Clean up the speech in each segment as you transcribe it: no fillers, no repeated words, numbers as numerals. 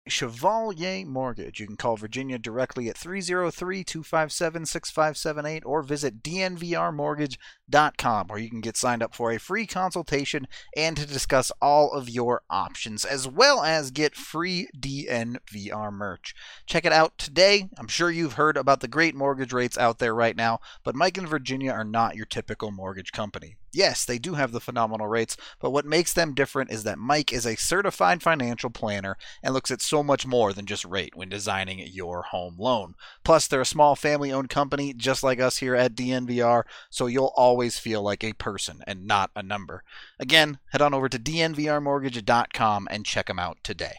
Chevalier Mortgage. You can call Virginia directly at 303-257-6578 or visit dnvrmortgage.com, where you can get signed up for a free consultation and to discuss all of your options, as well as get free DNVR merch. Check it out today. I'm sure you've heard about the great mortgage rates out there right now, but Mike and Virginia are not your typical mortgage company. Yes, they do have the phenomenal rates, but what makes them different is that Mike is a certified financial planner and looks at so much more than just rate when designing your home loan. Plus, they're a small family-owned company just like us here at DNVR, so you'll always feel like a person and not a number. Again, head on over to dnvrmortgage.com and check them out today.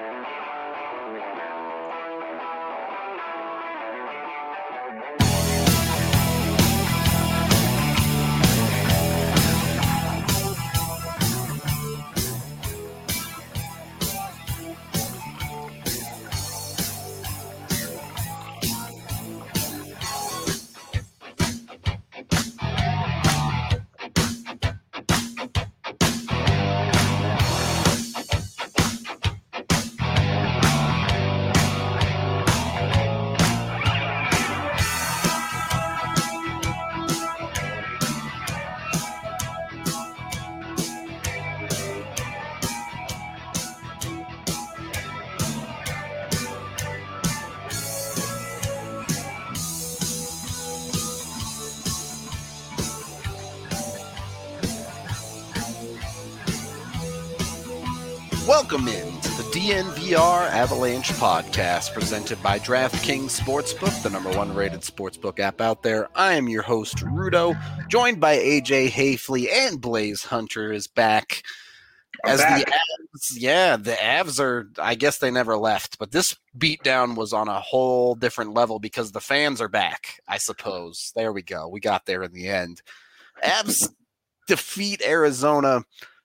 Welcome in to the DNVR Avalanche podcast presented by DraftKings Sportsbook, the number one rated sportsbook app out there. I am your host, Rudo, joined by AJ Hafley, and Blaze Hunter is back. The Avs are, I guess they never left, but this beatdown was on a whole different level because the fans are back, I suppose. There we go. We got there in the end. Avs defeat Arizona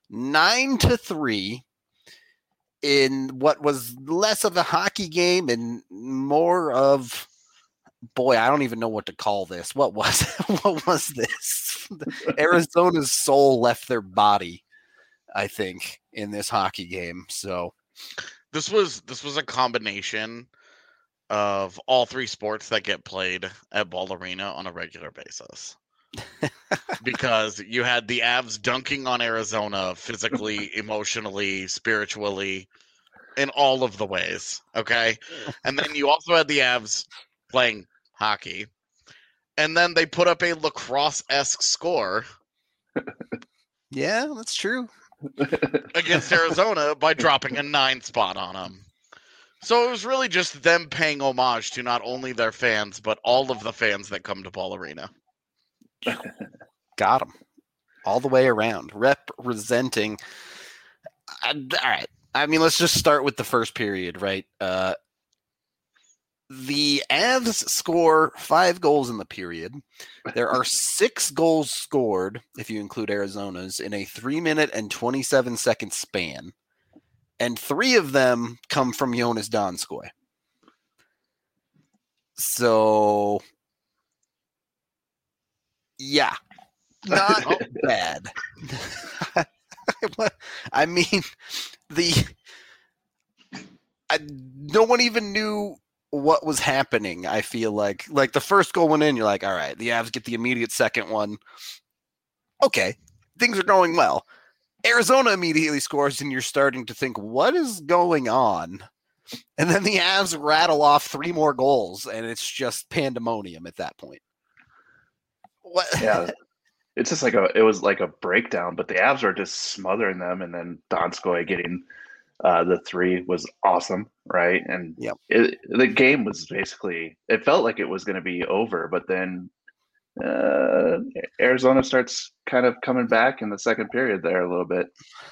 9-3. In what was less of a hockey game and more of, boy, I don't even know what to call this. What was this? Arizona's soul left their body, I think, in this hockey game. So this was a combination of all three sports that get played at Ball Arena on a regular basis. Because you had the Avs dunking on Arizona physically, emotionally, spiritually, in all of the ways, okay? And then you also had the Avs playing hockey. And then they put up a lacrosse-esque score. Yeah, that's true. Against Arizona by dropping a 9 spot on them. So it was really just them paying homage to not only their fans, but all of the fans that come to Ball Arena. Got them all the way around, representing. All right. I mean, let's just start with the first period, right? The Avs score 5 goals in the period. There are 6 goals scored, if you include Arizona's, in a 3-minute and 27-second span. And 3 of them come from Jonas Donskoy. So, yeah, not bad. I mean, no one even knew what was happening. I feel like the first goal went in, you're like, all right, the Avs get the immediate second one. Okay, things are going well. Arizona immediately scores, and you're starting to think, what is going on? And then the Avs rattle off 3 more goals, and it's just pandemonium at that point. What? Yeah, it's just it was like a breakdown, but the Avs are just smothering them, and then Donskoy getting the 3 was awesome, right? And yep. The game was basically, it felt like it was going to be over, but then Arizona starts kind of coming back in the second period there a little bit.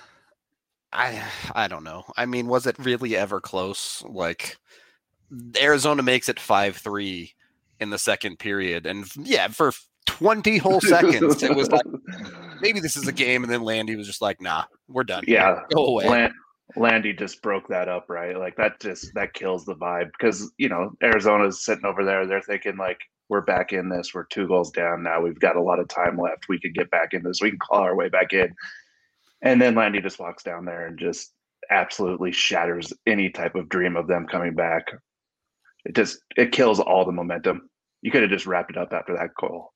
I don't know. I mean, was it really ever close? Like, Arizona makes it 5-3 in the second period, and yeah, for 20 whole seconds, it was like, maybe this is a game, and then Landy was just like, nah, we're done. Yeah, go away. Landy just broke that up, right? Like, that kills the vibe, because, you know, Arizona's sitting over there, they're thinking, like, we're back in this, we're 2 goals down now, we've got a lot of time left, we could get back in this, we can claw our way back in. And then Landy just walks down there and just absolutely shatters any type of dream of them coming back. It kills all the momentum. You could have just wrapped it up after that goal.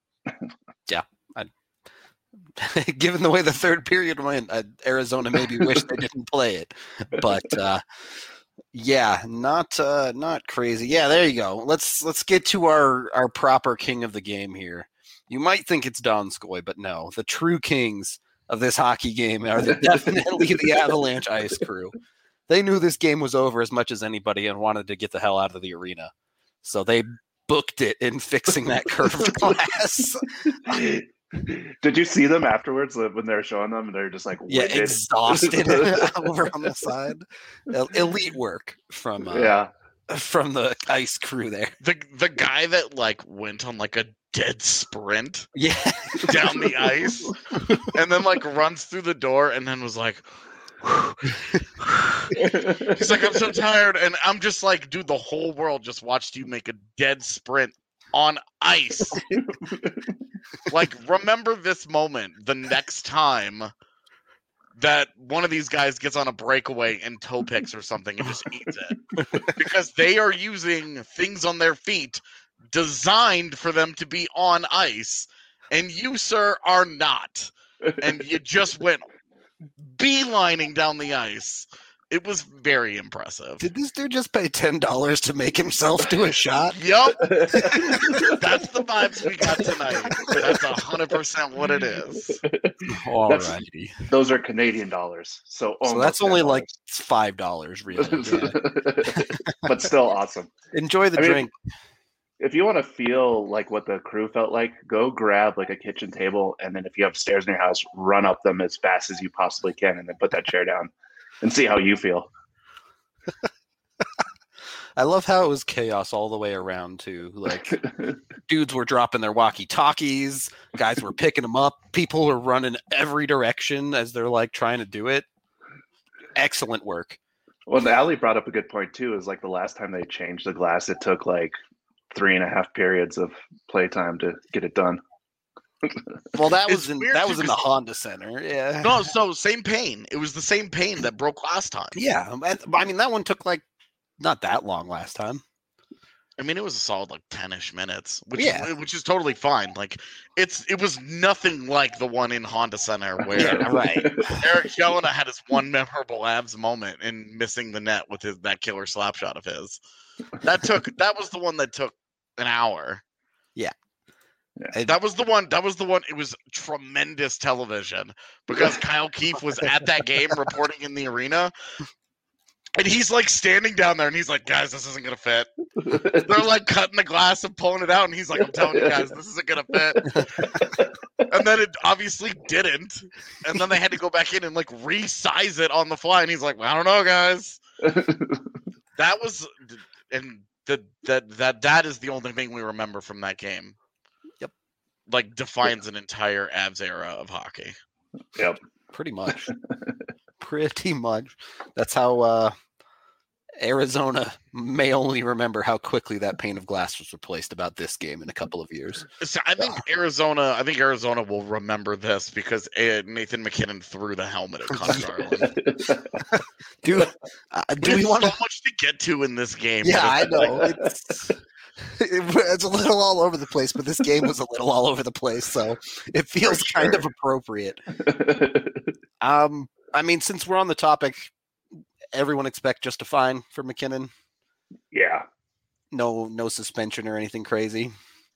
Given the way the third period went, Arizona maybe wished they didn't play it, but yeah, not crazy. Yeah, there you go. Let's get to our proper king of the game here. You might think it's Donskoy, but no, the true kings of this hockey game are definitely the Avalanche Ice Crew. They knew this game was over as much as anybody and wanted to get the hell out of the arena, so they booked it in fixing that curved glass. Did you see them afterwards when they were showing them? They're just like winded. Exhausted over on the side. Elite work from the ice crew there. The guy that like went on like a dead sprint down the ice and then like runs through the door and then was like he's like, I'm so tired, and I'm just like, dude, the whole world just watched you make a dead sprint on ice. Like, remember this moment the next time that one of these guys gets on a breakaway and toe picks or something and just eats it. Because they are using things on their feet designed for them to be on ice, and you, sir, are not. And you just went beelining down the ice. It was very impressive. Did this dude just pay $10 to make himself do a shot? Yup. That's the vibes we got tonight. That's 100% what it is. Alrighty. Those are Canadian dollars. So that's only like $5, really. Yeah. But still awesome. Enjoy the drink. If you want to feel like what the crew felt like, go grab like a kitchen table, and then if you have stairs in your house, run up them as fast as you possibly can, and then put that chair down and see how you feel. I love how it was chaos all the way around too. Like dudes were dropping their walkie-talkies, guys were picking them up, people were running every direction as they're like trying to do it. Excellent work. Well, Ali brought up a good point too. Is like the last time they changed the glass, it took like 3.5 periods of playtime to get it done. Well, that was in the Honda Center. Yeah. No, so same pane. It was the same pane that broke last time. Yeah, I mean that one took like not that long last time. I mean, it was a solid like 10-ish minutes, which is totally fine. Like it was nothing like the one in Honda Center where Eric Jelena had his one memorable Avs moment in missing the net with that killer slap shot of his. That was the one that took an hour. Yeah. That was the one. It was tremendous television because Kyle Keefe was at that game reporting in the arena. And he's like standing down there and he's like, guys, this isn't going to fit. They're like cutting the glass and pulling it out. And he's like, I'm telling you guys, this isn't going to fit. And then it obviously didn't. And then they had to go back in and like resize it on the fly. And he's like, well, I don't know, guys. That was, and that is the only thing we remember from that game. Yep. Like defines an entire Avs era of hockey. Yep. Pretty much. That's how Arizona may only remember how quickly that pane of glass was replaced about this game in a couple of years. So I think Arizona will remember this because Nathan MacKinnon threw the helmet at Connor Garland. Dude, do we want so much to get to in this game? Yeah, I know. It's a little all over the place, but this game was a little all over the place, so it feels kind of appropriate. I mean, since we're on the topic, everyone expect just a fine for MacKinnon? Yeah. No suspension or anything crazy?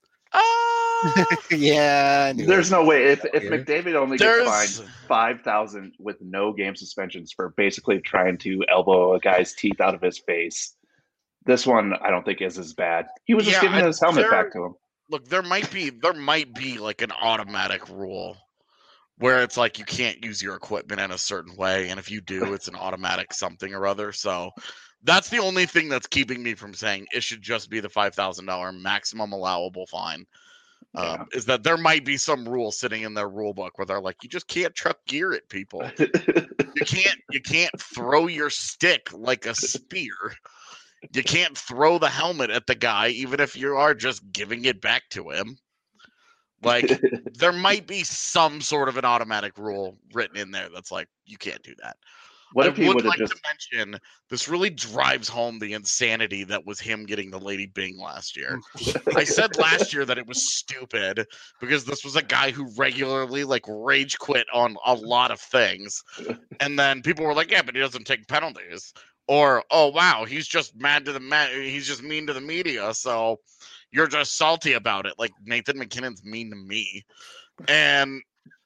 Yeah. There's no way. If McDavid only gets fined $5,000 with no game suspensions for basically trying to elbow a guy's teeth out of his face, this one I don't think is as bad. He was just giving his helmet back to him. Look, there might be like an automatic rule where it's like you can't use your equipment in a certain way, and if you do, it's an automatic something or other. So that's the only thing that's keeping me from saying it should just be the $5,000 maximum allowable fine. Is that there might be some rule sitting in their rule book where they're like, you just can't chuck gear at people. You can't throw your stick like a spear. You can't throw the helmet at the guy, even if you are just giving it back to him. Like, there might be some sort of an automatic rule written in there that's like, you can't do that. What I if he would would have like just? to mention this really drives home the insanity that was him getting the Lady Bing last year. I said last year that it was stupid because this was a guy who regularly like rage quit on a lot of things, and then people were like, "Yeah, but he doesn't take penalties." Or, "Oh wow, he's just he's just mean to the media, so you're just salty about it." Like Nathan McKinnon's mean to me, and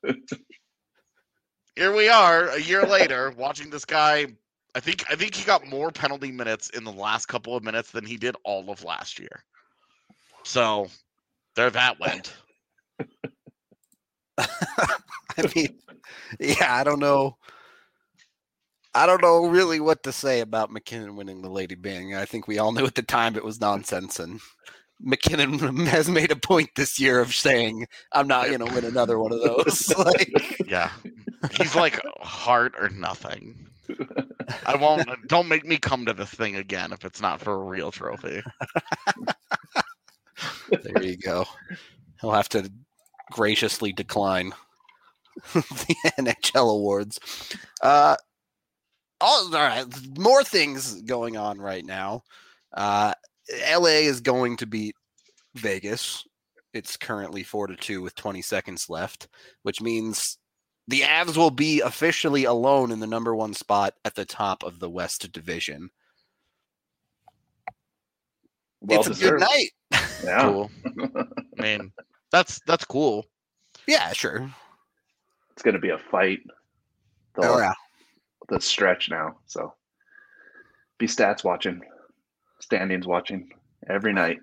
here we are a year later watching this guy. I think he got more penalty minutes in the last couple of minutes than he did all of last year. So there that went. I mean, yeah, I don't know. I don't know really what to say about McKinnon winning the Lady Bing. I think we all knew at the time it was nonsense, and McKinnon has made a point this year of saying, "I'm not going to win another one of those." Like, Yeah, he's like heart or nothing. I won't. Don't make me come to this thing again if it's not for a real trophy. there you go. He'll have to graciously decline the NHL awards. All right, more things going on right now. LA is going to beat Vegas. It's currently 4-2 with 20 seconds left, which means the Avs will be officially alone in the number one spot at the top of the West Division. Well it's a good night. Yeah. Cool. I mean, that's cool. Yeah, sure. It's going to be a fight. Oh, yeah. The stretch now. So be stats watching, standings watching every night.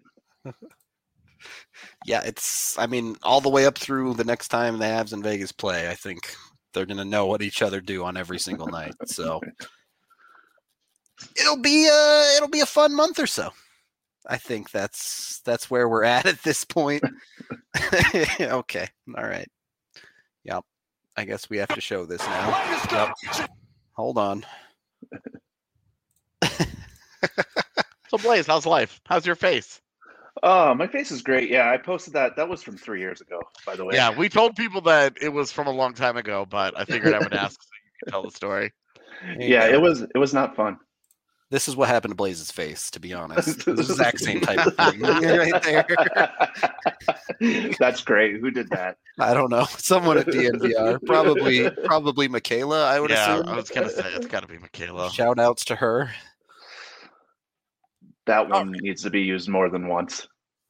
Yeah, I mean, all the way up through the next time the Avs and Vegas play, I think they're going to know what each other do on every single night. So it'll be a fun month or so. I think that's where we're at this point. Okay. All right. Yep. I guess we have to show this now. Yep. Hold on. So Blaze, how's life? How's your face? Oh, my face is great. Yeah, I posted that. That was from 3 years ago, by the way. Yeah, we told people that it was from a long time ago, but I figured I would ask so you could tell the story. Yeah, it was not fun. This is what happened to Blaze's face, to be honest. The exact same type of thing right there. That's great. Who did that? I don't know. Someone at DNVR. Probably Michaela, I would assume. I was going to say, it's got to be Michaela. Shout outs to her. That one needs to be used more than once.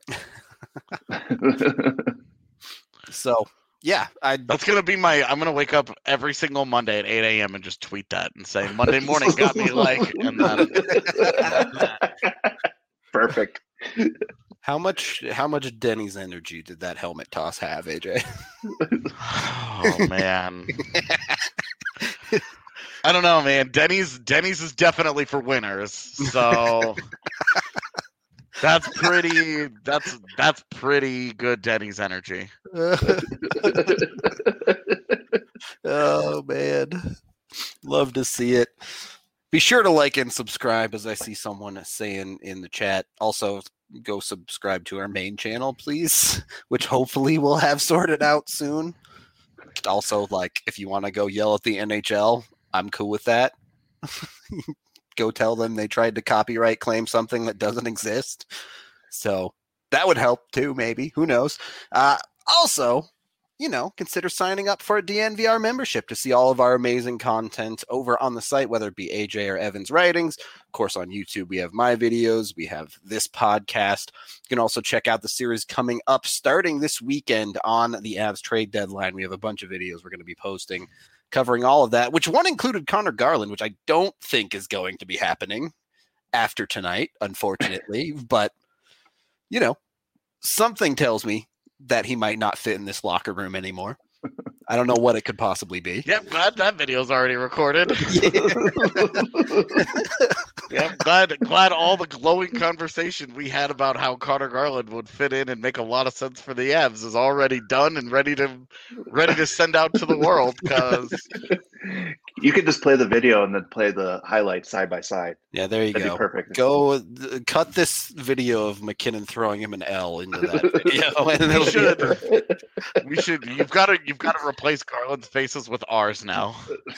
So, yeah. That's going to be I'm going to wake up every single Monday at 8 a.m. and just tweet that and say, Monday morning got me like, and then. Perfect. How much Denny's energy did that helmet toss have, AJ? Oh, man. I don't know, man. Denny's is definitely for winners. So that's pretty good Denny's energy. Oh man. Love to see it. Be sure to like and subscribe, as I see someone saying in the chat. Also, go subscribe to our main channel, please, which hopefully we'll have sorted out soon. Also, like, if you want to go yell at the NHL, I'm cool with that. Go tell them they tried to copyright claim something that doesn't exist. So that would help too, maybe. Who knows? Also, consider signing up for a DNVR membership to see all of our amazing content over on the site, whether it be AJ or Evan's writings. Of course, on YouTube, we have my videos. We have this podcast. You can also check out the series coming up starting this weekend on the Avs trade deadline. We have a bunch of videos we're going to be posting covering all of that, which one included Connor Garland, which I don't think is going to be happening after tonight, unfortunately. But, something tells me that he might not fit in this locker room anymore. I don't know what it could possibly be. Yep, glad that video's already recorded. Yep, glad all the glowing conversation we had about how Connor Garland would fit in and make a lot of sense for the Avs is already done and ready to send out to the world, because You could just play the video and then play the highlights side by side. Yeah, there you That'd go. be perfect. Cut this video of McKinnon throwing him an L into that video, and We should. You've got to replace Garland's faces with ours now.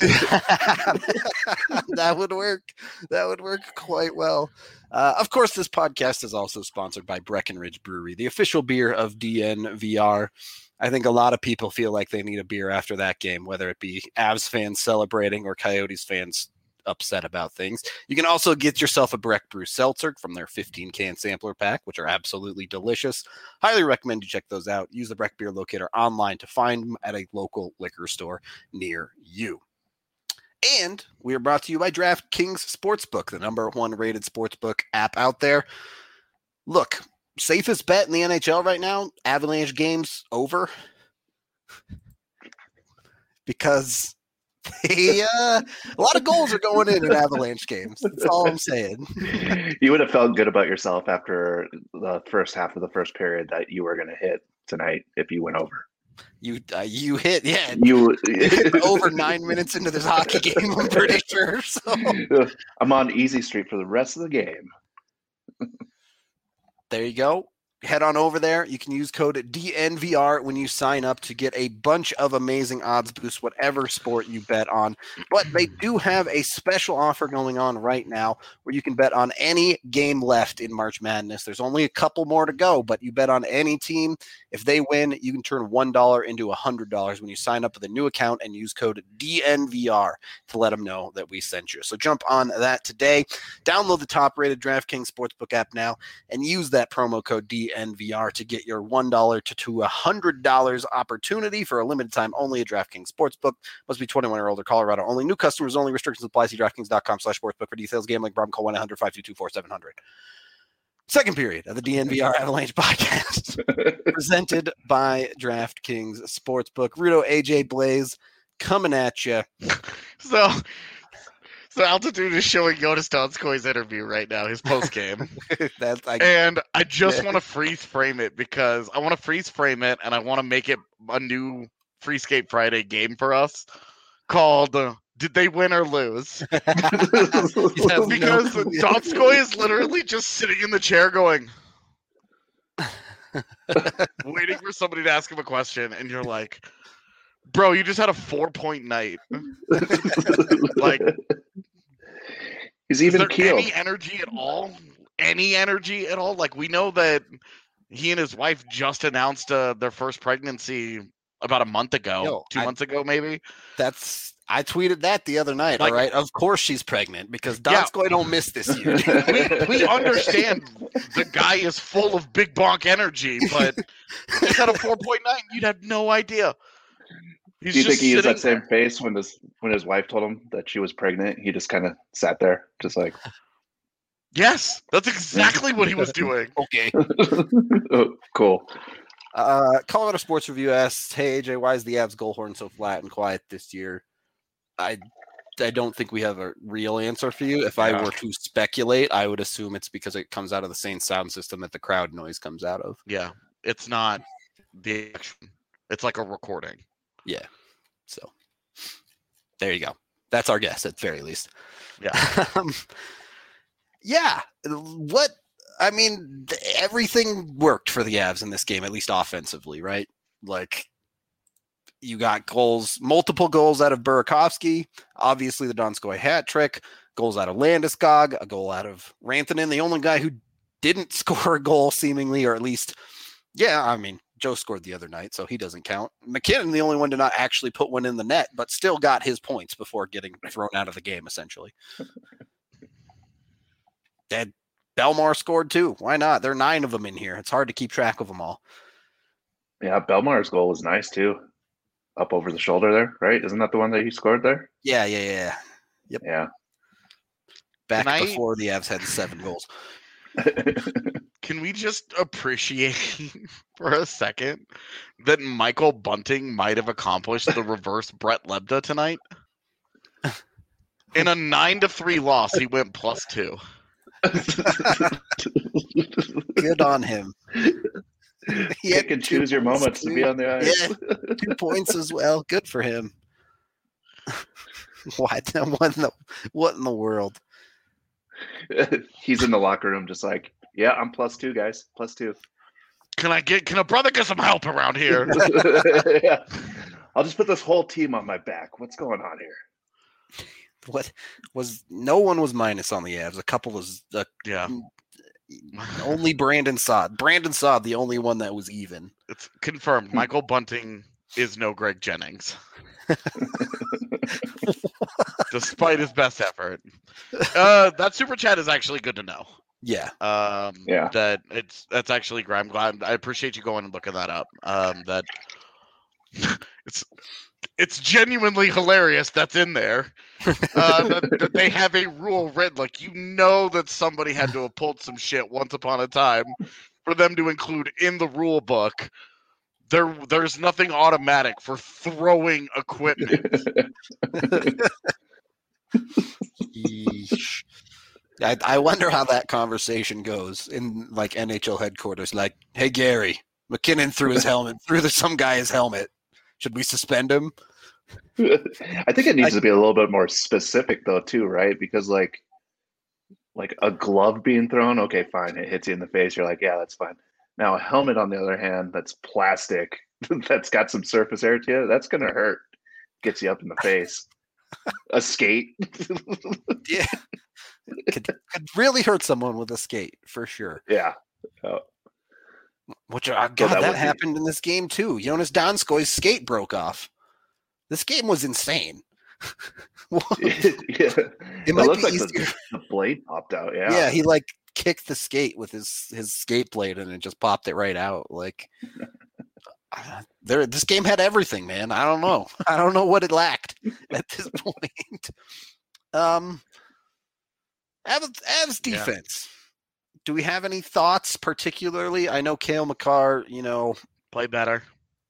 That would work. That would work quite well. Of course, this podcast is also sponsored by Breckenridge Brewery, the official beer of DNVR. I think a lot of people feel like they need a beer after that game, whether it be Avs fans celebrating or Coyotes fans upset about things. You can also get yourself a Breck Brew Seltzer from their 15-can sampler pack, which are absolutely delicious. Highly recommend you check those out. Use the Breck Beer Locator online to find them at a local liquor store near you. And we are brought to you by DraftKings Sportsbook, the #1 rated sportsbook app out there. Look, safest bet in the NHL right now, Avalanche games over. Because a lot of goals are going in Avalanche games. That's all I'm saying. You would have felt good about yourself after the first half of the first period that you were going to hit tonight if you went over. You hit, yeah. You hit over 9 minutes into this hockey game, I'm pretty sure. So. I'm on easy street for the rest of the game. There you go. Head on over there. You can use code DNVR when you sign up to get a bunch of amazing odds boosts, whatever sport you bet on. But they do have a special offer going on right now where you can bet on any game left in March Madness. There's only a couple more to go, but you bet on any team. If they win, you can turn $1 into $100 when you sign up with a new account and use code DNVR to let them know that we sent you. So jump on that today. Download the top-rated DraftKings Sportsbook app now and use that promo code DNVR to get your $1 to $100 opportunity for a limited time only at DraftKings Sportsbook. Must be 21 or older, Colorado only. New customers only. Restrictions apply. See DraftKings.com/sportsbook for details. Gambling problem, call 1-800-522-4700. Second period of the DNVR Avalanche podcast presented by DraftKings Sportsbook. Rudo, AJ, Blaze coming at you. So Altitude is showing Jonas Donskoy's interview right now, his post game. And I just want to freeze frame it because I want to freeze frame it and I want to make it a new Free Skate Friday game for us called Did They Win or Lose? Because Donskoy is literally just sitting in the chair going, waiting for somebody to ask him a question, and you're like, bro, you just had a 4-point night. Like, he's even keeled. Any energy at all? Any energy at all? Like, we know that he and his wife just announced their first pregnancy about a month ago, 2 months ago, maybe. I tweeted that the other night. Like, all right, of course she's pregnant because Donskoy don't miss this year. we understand the guy is full of big bonk energy, but he's had a 4-point night. You'd have no idea. Do you think he used that same face when his wife told him that she was pregnant? He just kind of sat there, just like. Yes, that's exactly what he was doing. Okay. Oh, cool. Colorado Sports Review asks, "Hey AJ, why is the Avs goal horn so flat and quiet this year?" I don't think we have a real answer for you. If I were to speculate, I would assume it's because it comes out of the same sound system that the crowd noise comes out of. Yeah, it's not the action. It's like a recording. Yeah. So there you go. That's our guess at the very least. Yeah. Everything worked for the Avs in this game, at least offensively, right? Like, you got goals, multiple goals out of Burakovsky, obviously the Donskoy hat trick, goals out of Landeskog, a goal out of Rantanen, the only guy who didn't score a goal seemingly, or at least, Joe scored the other night, so he doesn't count. McKinnon, the only one to not actually put one in the net, but still got his points before getting thrown out of the game, essentially. Belmar scored too. Why not? There are 9 of them in here. It's hard to keep track of them all. Yeah, Belmar's goal was nice too. Up over the shoulder there, right? Isn't that the one that he scored there? Yeah. Yep. Yeah. Back before the Avs had 7 goals. Can we just appreciate for a second that Michael Bunting might have accomplished the reverse Brett Lebda tonight? In a 9-3 loss, he went +2. Good on him. You can choose your moments to be on the ice. Yeah, 2 points as well. Good for him. What in the world? He's in the locker room just like, yeah, I'm +2, guys. +2. Can a brother get some help around here? Yeah. I'll just put this whole team on my back. What's going on here? What was no one was minus on the Avs. A couple was Yeah. only Brandon Saad. Brandon Saad, the only one that was even. It's confirmed. Michael Bunting is no Greg Jennings. Despite his best effort. That super chat is actually good to know. Yeah. Yeah. That's actually great. I'm glad. I appreciate you going and looking that up. That it's genuinely hilarious that's in there. That they have a rule written, like, you know, that somebody had to have pulled some shit once upon a time for them to include in the rule book. There's nothing automatic for throwing equipment. I wonder how that conversation goes in like NHL headquarters. Like, hey Gary, McKinnon threw his helmet, some guy's helmet. Should we suspend him? I think it needs to be a little bit more specific though, too, right? Because like a glove being thrown, okay, fine, it hits you in the face. You're like, yeah, that's fine. Now a helmet, on the other hand, that's plastic, that's got some surface area to it, that's gonna hurt. Gets you up in the face. A skate. Yeah. Could really hurt someone with a skate, for sure. Yeah. Which, that happened in this game too. Jonas Donskoi's skate broke off. This game was insane. It looks like the blade popped out. Yeah. Yeah, he like kicked the skate with his skate blade and it just popped it right out. Like, this game had everything, man. I don't know. I don't know what it lacked at this point. Avs defense. Yeah. Do we have any thoughts particularly? I know Cale Makar, played better,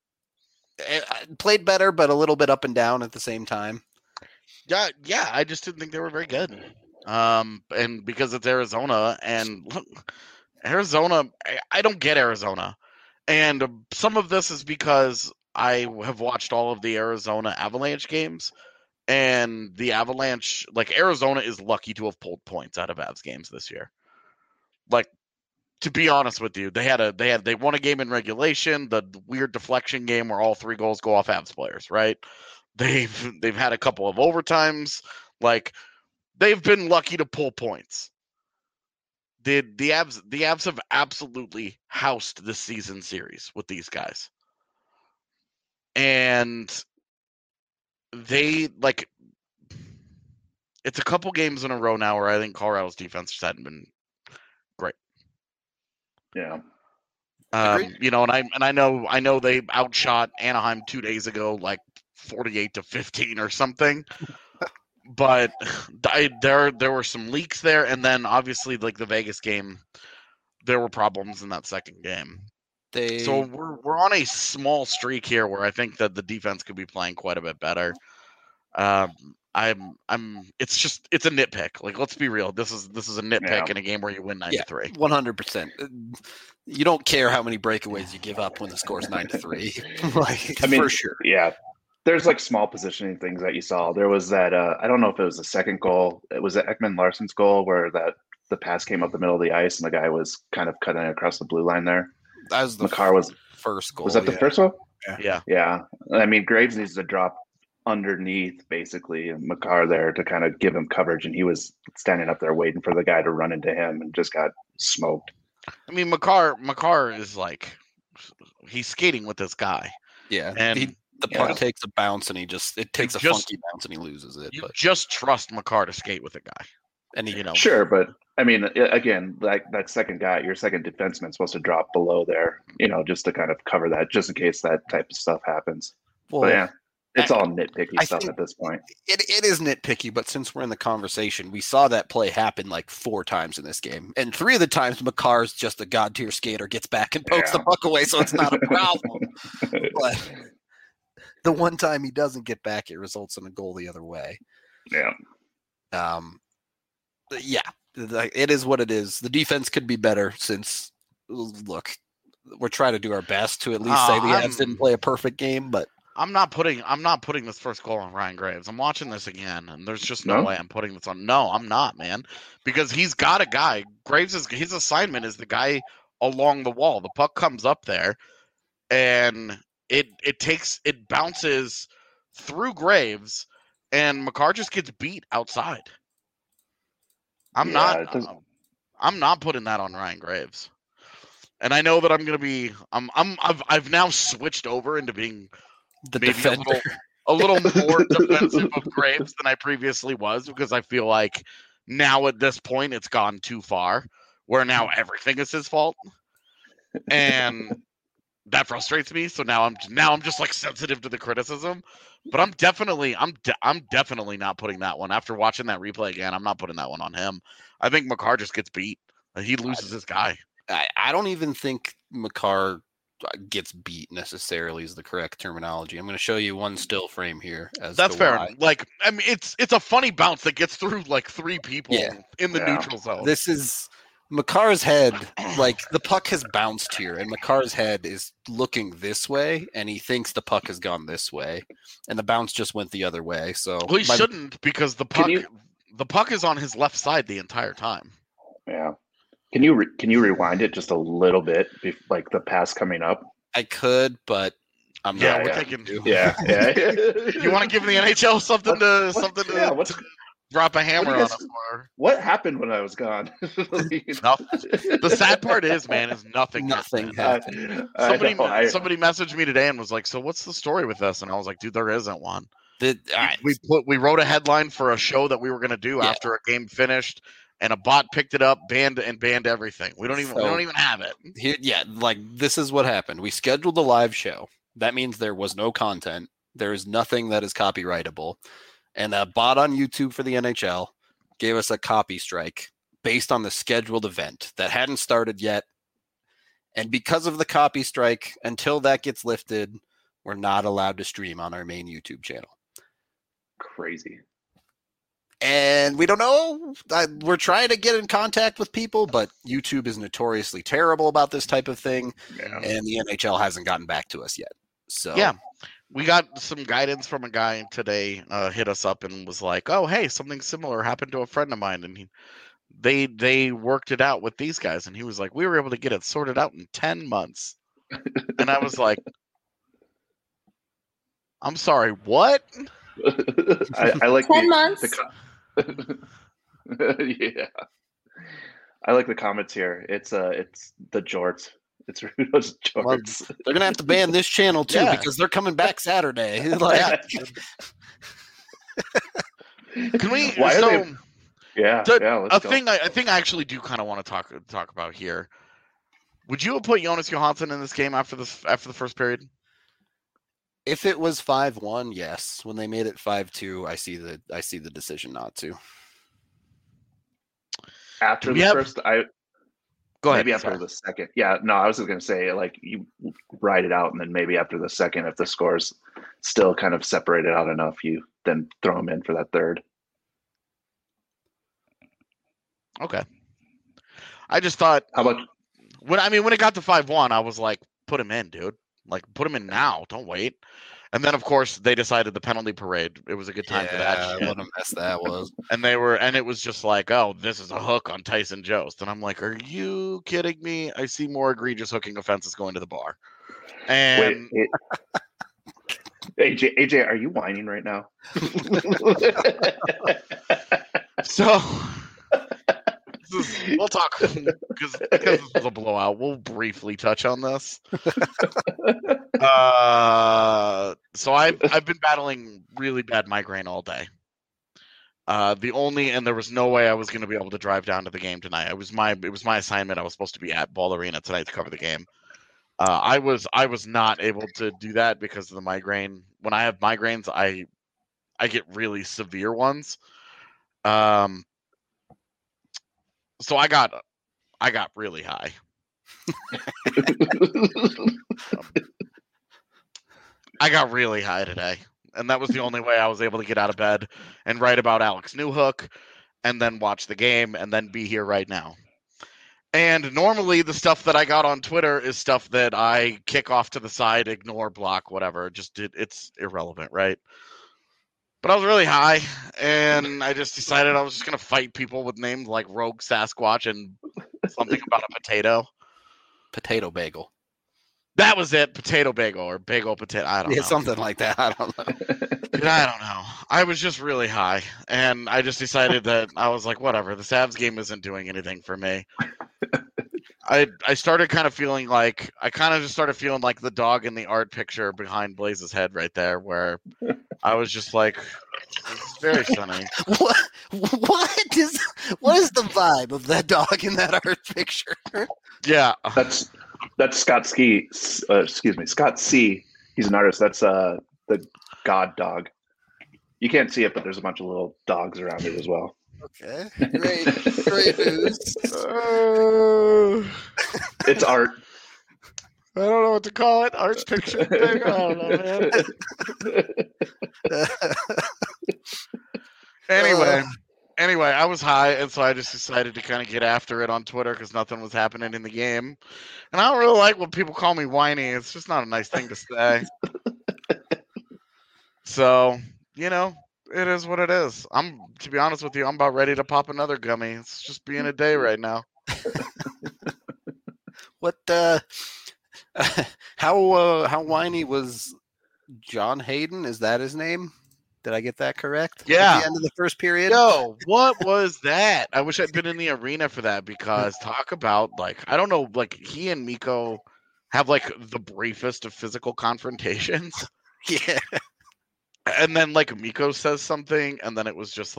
but a little bit up and down at the same time. Yeah. I just didn't think they were very good. And because it's Arizona, and look, Arizona, I don't get Arizona. And some of this is because I have watched all of the Arizona Avalanche games. And the Avalanche, like, Arizona is lucky to have pulled points out of Avs games this year. Like, to be honest with you, they won a game in regulation, the weird deflection game where all 3 goals go off Avs players, right? They've had a couple of overtimes. Like, they've been lucky to pull points. The Avs have absolutely housed this season series with these guys. And they, like, it's a couple games in a row now where I think Colorado's defense just hadn't been great. Yeah. And I know they outshot Anaheim 2 days ago, like 48-15 or something. But there were some leaks there, and then obviously, like, the Vegas game, there were problems in that second game. So we're on a small streak here where I think that the defense could be playing quite a bit better. It's a nitpick. Like, let's be real. This is a nitpick in a game where you win 9-3. 100%. You don't care how many breakaways you give up when the score's 9-3. Like, for sure. Yeah. There's like small positioning things that you saw. There was that I don't know if it was the second goal. It was Ekman Larsson's goal where the pass came up the middle of the ice and the guy was kind of cutting across the blue line there. That was the first goal. Was that the first one? Yeah. I mean, Graves needs to drop underneath basically and Makar there to kind of give him coverage, and he was standing up there waiting for the guy to run into him and just got smoked. I mean, Makar is like, he's skating with this guy. Yeah. And the puck takes a bounce and it takes a funky bounce and he loses it. You just trust Makar to skate with a guy. And Sure, but I mean, again, like that second guy, your second defenseman's supposed to drop below there, just to kind of cover that, just in case that type of stuff happens. Well, but yeah, it's all nitpicky stuff at this point. It is nitpicky, but since we're in the conversation, we saw that play happen like 4 times in this game. And 3 of the times Makar's just a god tier skater, gets back and pokes the puck away, so it's not a problem. But the one time he doesn't get back, it results in a goal the other way. Yeah. Yeah, it is what it is. The defense could be better since, look, we're trying to do our best to at least say the Avs didn't play a perfect game, but I'm not putting this first goal on Ryan Graves. I'm watching this again, and there's just no No? way I'm putting this on. No, I'm not, man, because he's got a guy. His assignment is the guy along the wall. The puck comes up there, and it bounces through Graves, and Makar just gets beat outside. I'm not putting that on Ryan Graves. And I know that I'm gonna be. I've now switched over into being The maybe defender. a little more defensive of Graves than I previously was, because I feel like now at this point it's gone too far, where now everything is his fault, and that frustrates me. So now I'm just like sensitive to the criticism. But I'm definitely not putting that one after watching that replay again. I'm not putting that one on him. I think Makar just gets beat. He loses his guy. I don't even think Makar gets beat necessarily is the correct terminology. I'm going to show you one still frame here. That's fair. Like, I mean, it's a funny bounce that gets through like three people in the neutral zone. This is Makar's head. Like, the puck has bounced here, and Makar's head is looking this way, and he thinks the puck has gone this way, and the bounce just went the other way. So well, he shouldn't, because the puck is on his left side the entire time. Yeah. Can you rewind it just a little bit, like the pass coming up? I could, but I'm not. We're taking. Yeah. You want to give the NHL something to drop a hammer on us for? What happened when I was gone? The sad part is, man, is nothing happened. Somebody messaged me today and was like, "So what's the story with this?" And I was like, "Dude, there isn't one." We wrote a headline for a show that we were going to do after a game finished. And a bot picked it up, banned everything. We don't even have it. Here, like, this is what happened. We scheduled a live show. That means there was no content. There is nothing that is copyrightable. And a bot on YouTube for the NHL gave us a copy strike based on the scheduled event that hadn't started yet. And because of the copy strike, until that gets lifted, we're not allowed to stream on our main YouTube channel. Crazy. And we don't know. We're trying to get in contact with people, but YouTube is notoriously terrible about this type of thing. Yeah. And the NHL hasn't gotten back to us yet. So yeah, we got some guidance from a guy today, hit us up and was like, "Oh, hey, something similar happened to a friend of mine." And they worked it out with these guys. And he was like, "We were able to get it sorted out in 10 months. And I was like, "I'm sorry, what?" I like 10 months. Yeah, I like the comments here. It's the jorts. It's Rudo's jorts. Well, they're gonna have to ban this channel too because they're coming back Saturday. Like, can we? Why so, are they? Yeah, let's go. I think I actually do kind of want to talk about here. Would you have put Jonas Johansson in this game after the first period? If it was 5-1, yes. When they made it 5-2, I see the decision not to. After the first, go ahead. Maybe after the second. Yeah, no, I was going to say, like, you ride it out, and then maybe after the second, if the score's still kind of separated out enough, you then throw him in for that third. Okay. I just thought. How about when it got to 5-1, I was like, put him in, dude. Like, put him in now. Don't wait. And then, of course, they decided the penalty parade. It was a good time for that. What a mess that was. And it was just like, oh, this is a hook on Tyson Jost. And I'm like, are you kidding me? I see more egregious hooking offenses going to the bar. And AJ, are you whining right now? So we'll talk because this was a blowout. We'll briefly touch on this. So I've been battling really bad migraine all day. And there was no way I was going to be able to drive down to the game tonight. It was my assignment. I was supposed to be at Ball Arena tonight to cover the game. I was not able to do that because of the migraine. When I have migraines, I get really severe ones. So I got really high. I got really high today, and that was the only way I was able to get out of bed and write about Alex Newhook, and then watch the game, and then be here right now. And normally the stuff that I got on Twitter is stuff that I kick off to the side, ignore, block, whatever. It's irrelevant, right? But I was really high, and I just decided I was just going to fight people with names like Rogue Sasquatch and something about a potato. Potato bagel. That was it. Potato bagel or bagel potato. I don't know. Something like that. I don't know. Dude, I don't know. I was just really high, and I just decided that I was like, whatever. This Avs game isn't doing anything for me. I started kind of feeling like the dog in the art picture behind Blaze's head right there, where I was just like, this is very funny. What is the vibe of that dog in that art picture? Yeah, That's Scott Ski. Excuse me, Scott C. He's an artist. That's the God dog. You can't see it, but there's a bunch of little dogs around it as well. Okay, great news. It's art. I don't know what to call it. Art's picture thing. I don't know, man. Anyway, I was high, and so I just decided to kind of get after it on Twitter because nothing was happening in the game. And I don't really like when people call me whiny. It's just not a nice thing to say. So, it is what it is. To be honest with you, I'm about ready to pop another gummy. It's just being a day right now. What how whiny was John Hayden? Is that his name? Did I get that correct? Yeah. At the end of the first period? Yo, what was that? I wish I'd been in the arena for that because talk about, I don't know, he and Mikko have, the briefest of physical confrontations. Yeah. And then, Mikko says something, and then it was just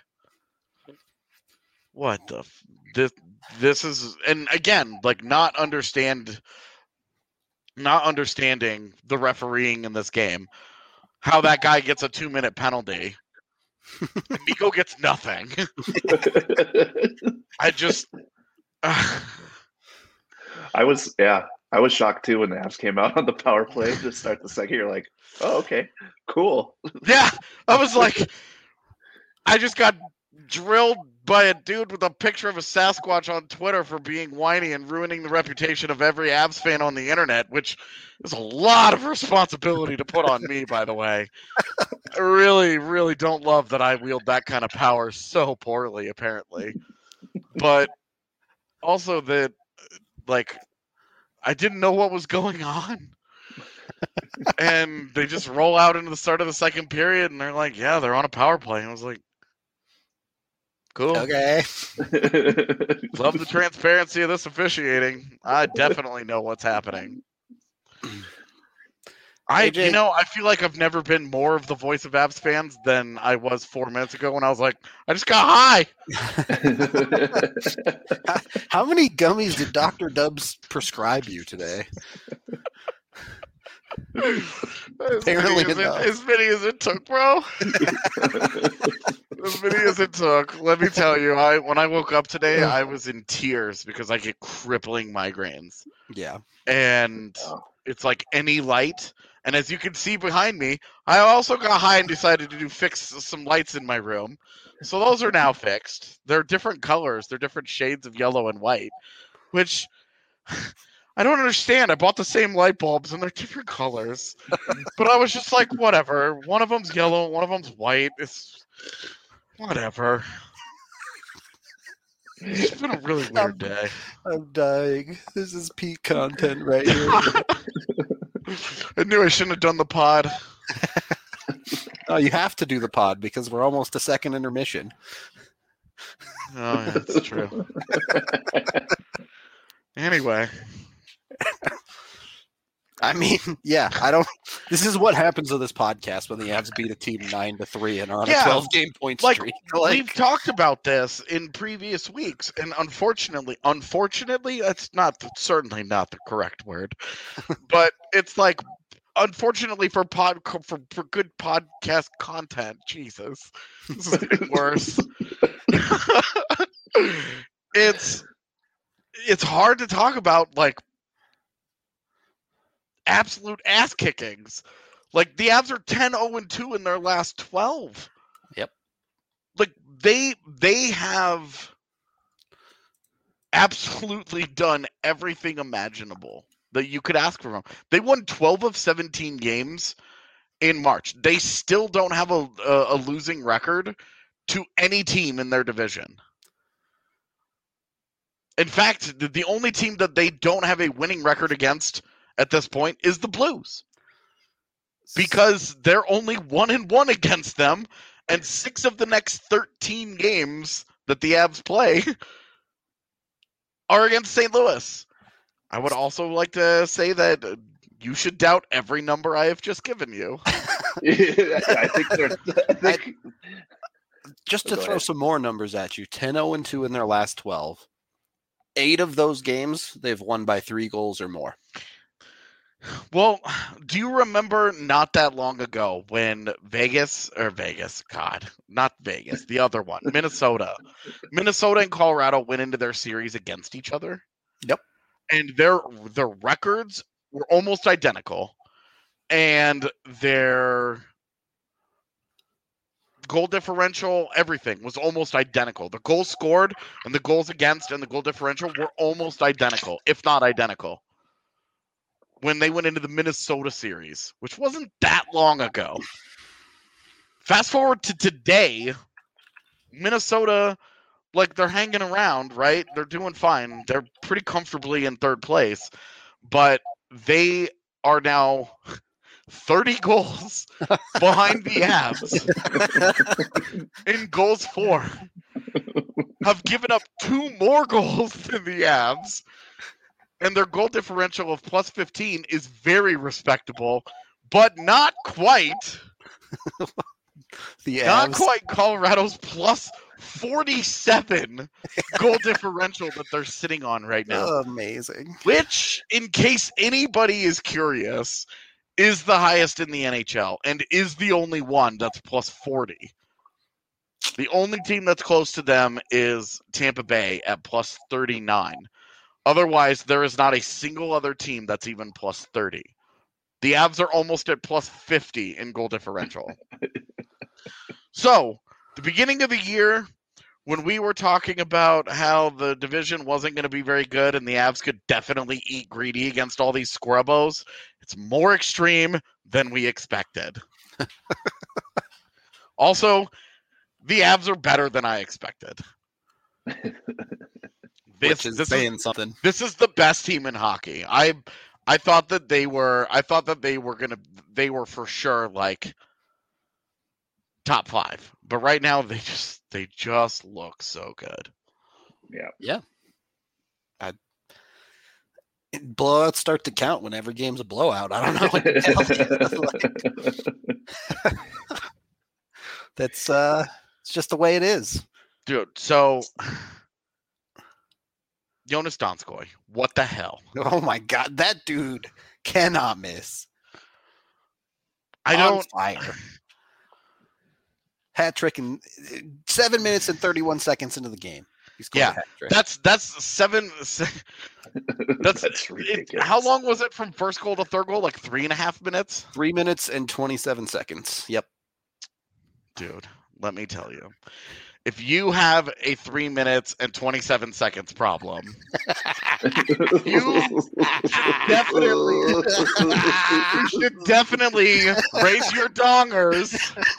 what the... This is... And again, not understanding the refereeing in this game. How that guy gets a 2-minute penalty. And Mikko gets nothing. I was shocked too when the Avs came out on the power play to start the second. You're like, oh, okay, cool. Yeah, I was like, I just got drilled by a dude with a picture of a Sasquatch on Twitter for being whiny and ruining the reputation of every Avs fan on the internet, which is a lot of responsibility to put on me, by the way. I really, really don't love that I wield that kind of power so poorly, apparently. But also that, I didn't know what was going on. And they just roll out into the start of the second period, and they're like, yeah, they're on a power play. And I was like, cool. Okay. Love the transparency of this officiating. I definitely know what's happening. I feel like I've never been more of the voice of Avs fans than I was 4 minutes ago when I was like, I just got high. How many gummies did Dr. Dubs prescribe you today? Apparently as many as it took, bro. As many as it took. Let me tell you, when I woke up today, I was in tears because I get crippling migraines. Yeah. And it's like any light. And as you can see behind me, I also got high and decided to fix some lights in my room. So those are now fixed. They're different colors. They're different shades of yellow and white, which I don't understand. I bought the same light bulbs and they're different colors. But I was just like, whatever. One of them's yellow, one of them's white. It's whatever. It's been a really weird day. I'm dying. This is peak content right here. I knew I shouldn't have done the pod. Oh, you have to do the pod because we're almost a second intermission. Oh, yeah, that's true. Anyway. I mean, yeah, this is what happens to this podcast when the Avs beat a team 9-3 and are on a 12-game point streak. We've talked about this in previous weeks, and unfortunately, that's certainly not the correct word, but it's unfortunately for good podcast content, Jesus, this is getting worse. It's hard to talk about absolute ass kickings. The Avs are 10-0-2 in their last 12. Yep. They have absolutely done everything imaginable that you could ask for them. They won 12 of 17 games in March. They still don't have a losing record to any team in their division. In fact, the only team that they don't have a winning record against at this point is the Blues. Because they're only 1-1 against them, and 6 of the next 13 games that the Avs play are against St. Louis. I would also like to say that you should doubt every number I have just given you. I think just to throw some more numbers at you, 10-0-2 in their last 12. 8 of those games, they've won by 3 goals or more. Well, do you remember not that long ago when the other one, Minnesota and Colorado went into their series against each other? Yep. And their records were almost identical, and their goal differential, everything was almost identical. The goals scored and the goals against and the goal differential were almost identical, if not identical, when they went into the Minnesota series, which wasn't that long ago. Fast forward to today, Minnesota, like, they're hanging around, right? They're doing fine. They're pretty comfortably in third place, but they are now 30 goals behind the Avs in goals for. Have given up 2 more goals than the Avs, and their goal differential of plus 15 is very respectable, but not quite. Not quite Colorado's plus 47 goal differential that they're sitting on right now. Amazing. Which, in case anybody is curious, is the highest in the NHL and is the only one that's plus 40. The only team that's close to them is Tampa Bay at plus 39. Otherwise, there is not a single other team that's even plus 30. The Avs are almost at plus 50 in goal differential. So, the beginning of the year, when we were talking about how the division wasn't going to be very good and the Avs could definitely eat greedy against all these scrubbos, it's more extreme than we expected. Also, the Avs are better than I expected. Which is saying something. This is the best team in hockey. I thought that they were for sure like top 5. But right now they just look so good. Yeah. Blowouts start to count when every game's a blowout. I don't know what to tell you. That's it's just the way it is. Dude, so Jonas Donskoy, what the hell? Oh my god, that dude cannot miss. I don't fire. Hat trick in 7 minutes and 31 seconds into the game. He's scored a hat trick. That's 7. That's ridiculous. How long was it from first goal to third goal? Like 3.5 minutes? 3 minutes and 27 seconds. Yep. Dude, let me tell you. If you have a 3 minutes and 27 seconds problem, you should definitely raise your dongers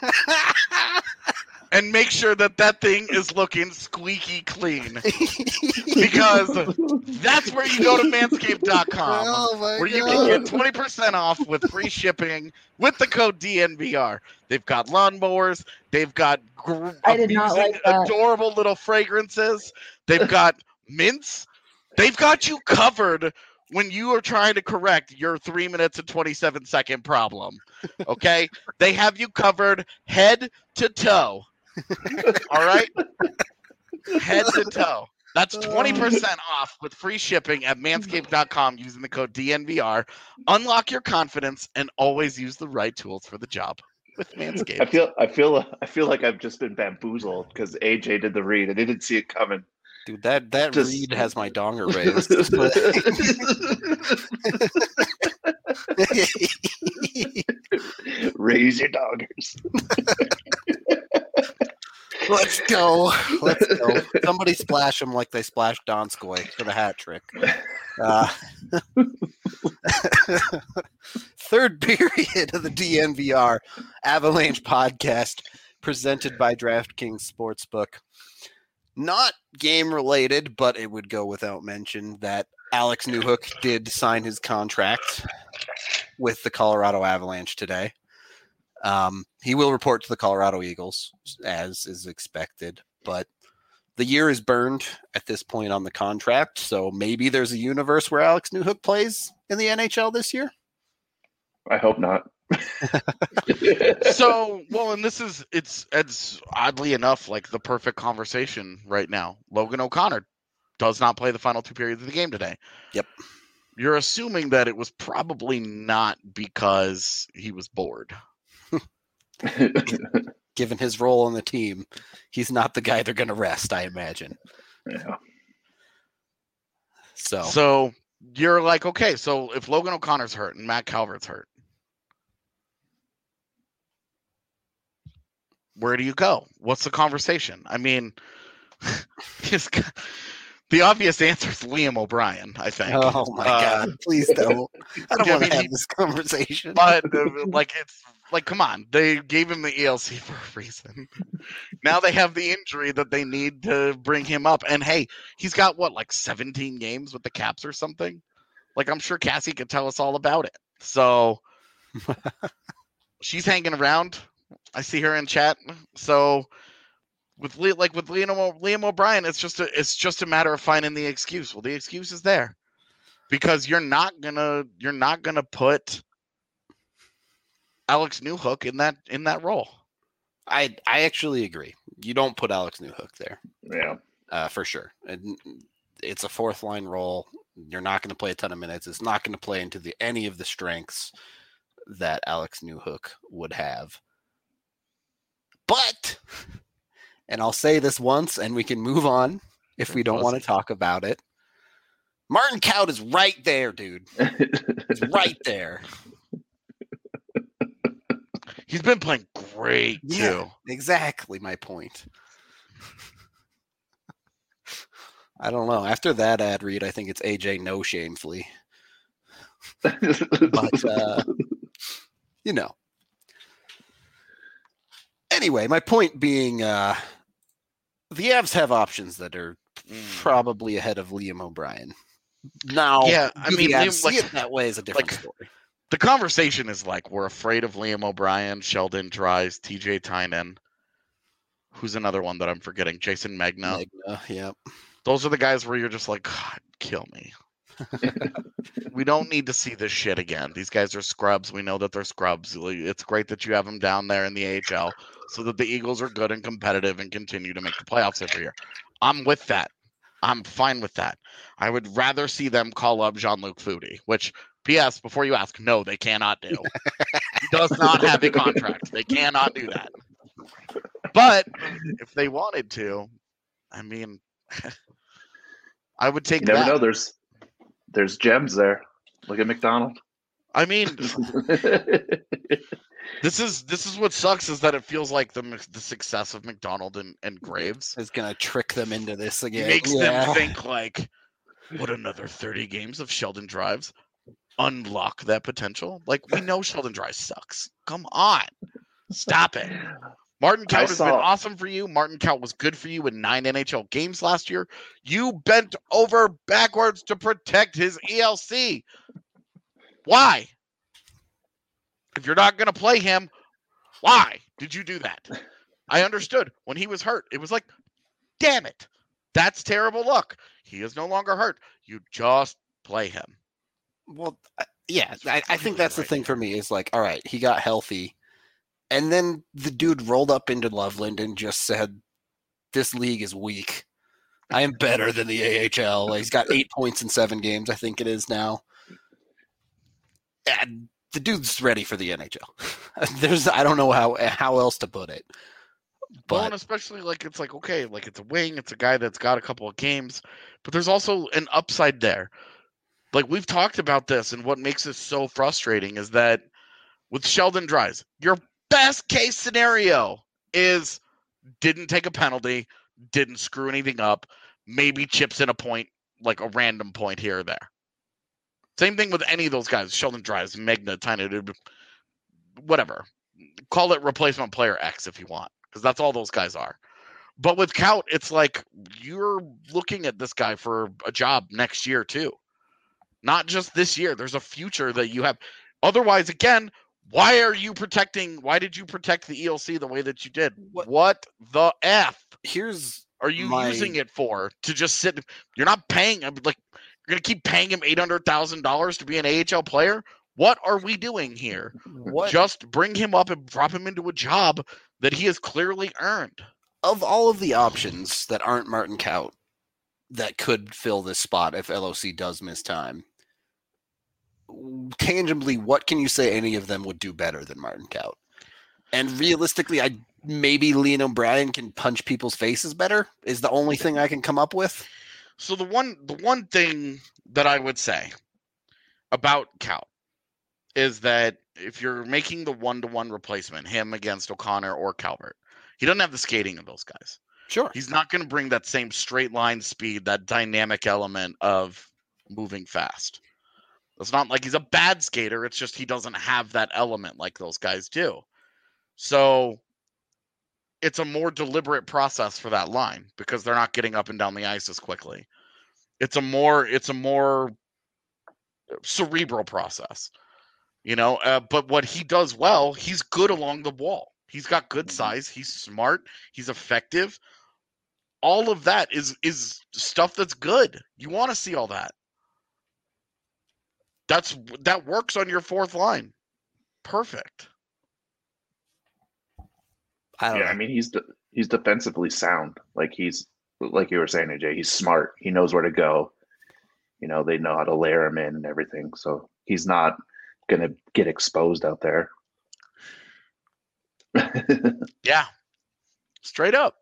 and make sure that thing is looking squeaky clean. Because that's where you go to manscaped.com, where you can get 20% off with free shipping with the code DNVR. They've got lawnmowers. They've got adorable little fragrances. They've got mints. They've got you covered when you are trying to correct your 3 minutes and 27 second problem. Okay? They have you covered head to toe. All right? Head to toe. That's 20% off with free shipping at manscaped.com using the code DNVR. Unlock your confidence and always use the right tools for the job with Manscaped. I feel like I've just been bamboozled because AJ did the read. I didn't see it coming. Dude, that read has my donger raised. Raise your dongers. Let's go. Somebody splash him like they splashed Donskoy for the hat trick. Third period of the DNVR Avalanche podcast presented by DraftKings Sportsbook. Not game related, but it would go without mention that Alex Newhook did sign his contract with the Colorado Avalanche today. He will report to the Colorado Eagles, as is expected, but the year is burned at this point on the contract, so maybe there's a universe where Alex Newhook plays in the NHL this year? I hope not. So, well, and it's oddly enough like the perfect conversation right now. Logan O'Connor does not play the final 2 periods of the game today. Yep. You're assuming that it was probably not because he was bored. Given his role on the team, he's not the guy they're going to rest, I imagine. Yeah. So you're like, okay, so if Logan O'Connor's hurt and Matt Calvert's hurt, where do you go? What's the conversation? I mean, the obvious answer is Liam O'Brien, I think. Oh my God! Please don't. I don't want to have this conversation. But come on. They gave him the ELC for a reason. Now they have the injury that they need to bring him up. And hey, he's got 17 games with the Caps or something. Like, I'm sure Cassie could tell us all about it. So she's hanging around. I see her in chat. So with Liam O'Brien, it's just a matter of finding the excuse. Well, the excuse is there because you're not gonna put Alex Newhook in that role. I actually agree. You don't put Alex Newhook there. Yeah. For sure. And it's a fourth line role. You're not going to play a ton of minutes. It's not going to play into any of the strengths that Alex Newhook would have. But, and I'll say this once and we can move on if we don't want to talk about it. Martin Kaut is right there, dude. He's right there. He's been playing great, too. Yeah, exactly my point. I don't know. After that ad read, I think it's AJ No Shamefully. But, Anyway, my point being, the Avs have options that are probably ahead of Liam O'Brien. Now, yeah, I mean, Liam, see it that way is a different story. The conversation is we're afraid of Liam O'Brien, Sheldon Dries, TJ Tynan. Who's another one that I'm forgetting? Jason Magna. Yep. Those are the guys where you're just like, God, kill me. We don't need to see this shit again. These guys are scrubs. We know that they're scrubs. It's great that you have them down there in the AHL so that the Eagles are good and competitive and continue to make the playoffs every year. I'm with that. I'm fine with that. I would rather see them call up Jean-Luc Foudy, which, P.S., before you ask, no, they cannot do. He does not have a contract. They cannot do that. But if they wanted to, I mean, I would take that. You never know. There's gems there. Look at McDonald. I mean, this is what sucks is that it feels like the success of McDonald and Graves is going to trick them into this again. It makes them think what another 30 games of Sheldon Dries unlock that potential? We know Sheldon Dries sucks. Come on. Stop it. Martin Kaut has been awesome for you. Martin Kaut was good for you in 9 NHL games last year. You bent over backwards to protect his ELC. Why? If you're not going to play him, why did you do that? I understood when he was hurt. It was damn it. That's terrible luck. He is no longer hurt. You just play him. Well, yeah, I think that's the thing for me is all right, he got healthy. And then the dude rolled up into Loveland and just said, this league is weak. I am better than the AHL. He's got 8 points in 7 games, I think it is now. And the dude's ready for the NHL. I don't know how else to put it. But well, and especially it's it's a wing. It's a guy that's got a couple of games. But there's also an upside there. We've talked about this, and what makes this so frustrating is that with Sheldon Dries, your best case scenario is didn't take a penalty, didn't screw anything up, maybe chips in a point, like a random point here or there. Same thing with any of those guys, Sheldon Dries, Magna, Tiny, whatever. Call it replacement player X if you want, because that's all those guys are. But with Kaut, it's like you're looking at this guy for a job next year too. Not just this year. There's a future that you have. Otherwise, again, why did you protect the ELC the way that you did? What the F? Are you using it for? To just sit? You're not paying him. Like, you're going to keep paying him $800,000 to be an AHL player? What are we doing here? Just bring him up and drop him into a job that he has clearly earned. Of all of the options that aren't Martin Kaut that could fill this spot if LOC does miss time, tangibly, what can you say any of them would do better than Martin Kaut? And realistically, maybe Leon O'Brien can punch people's faces better is the only thing I can come up with. So the one thing that I would say about Kaut is that if you're making the 1-to-1 replacement, him against O'Connor or Calvert, he doesn't have the skating of those guys. Sure. He's not going to bring that same straight line speed, that dynamic element of moving fast. It's not like he's a bad skater. It's just he doesn't have that element like those guys do. So it's a more deliberate process for that line because they're not getting up and down the ice as quickly. It's a more cerebral process, but what he does well, he's good along the wall. He's got good size. He's smart. He's effective. All of that is stuff that's good. You want to see all that. That works on your fourth line. Perfect. I mean, he's defensively sound. Like you were saying, AJ, he's smart. He knows where to go. They know how to layer him in and everything. So he's not going to get exposed out there. Yeah. Straight up.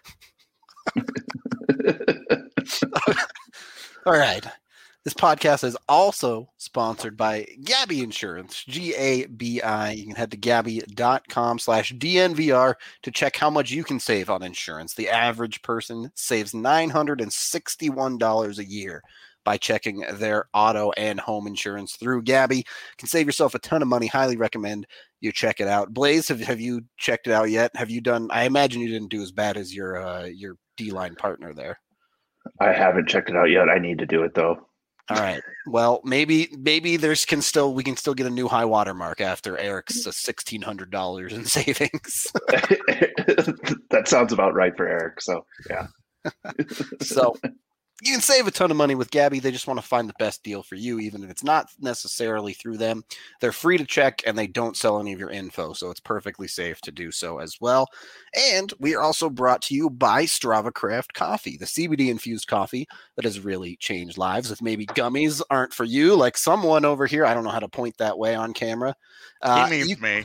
All right. This podcast is also sponsored by Gabi Insurance, GABI. You can head to gabi.com/DNVR to check how much you can save on insurance. The average person saves $961 a year by checking their auto and home insurance through Gabi. You can save yourself a ton of money. Highly recommend you check it out. Blaze, have you checked it out yet? Have you done? I imagine you didn't do as bad as your D-line partner there. I haven't checked it out yet. I need to do it though. All right. Well, maybe we can still get a new high water mark after Eric's $1,600 in savings. That sounds about right for Eric. So yeah. So you can save a ton of money with Gabi. They just want to find the best deal for you, even if it's not necessarily through them. They're free to check, and they don't sell any of your info, so it's perfectly safe to do so as well. And we are also brought to you by Strava Craft Coffee, the CBD-infused coffee that has really changed lives. If maybe gummies aren't for you, like someone over here, I don't know how to point that way on camera. He means me.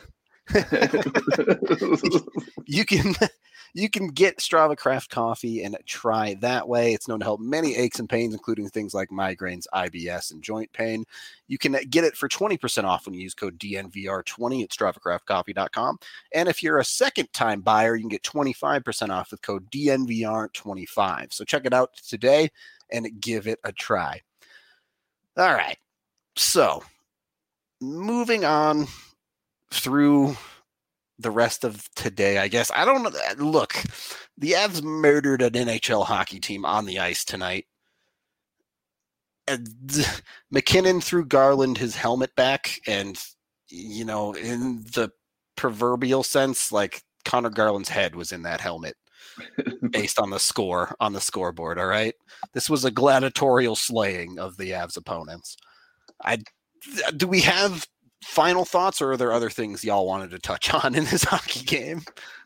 You can get Strava Craft Coffee and try that way. It's known to help many aches and pains, including things like migraines, IBS, and joint pain. You can get it for 20% off when you use code DNVR20 at StravaCraftCoffee.com. And if you're a second-time buyer, you can get 25% off with code DNVR25. So check it out today and give it a try. All right. So moving on through the rest of today, I guess. I don't know. Look, the Avs murdered an NHL hockey team on the ice tonight. And McKinnon threw Garland his helmet back, and, in the proverbial sense, like Connor Garland's head was in that helmet based on the score on the scoreboard, all right? This was a gladiatorial slaying of the Avs opponents. Do we have final thoughts, or are there other things y'all wanted to touch on in this hockey game?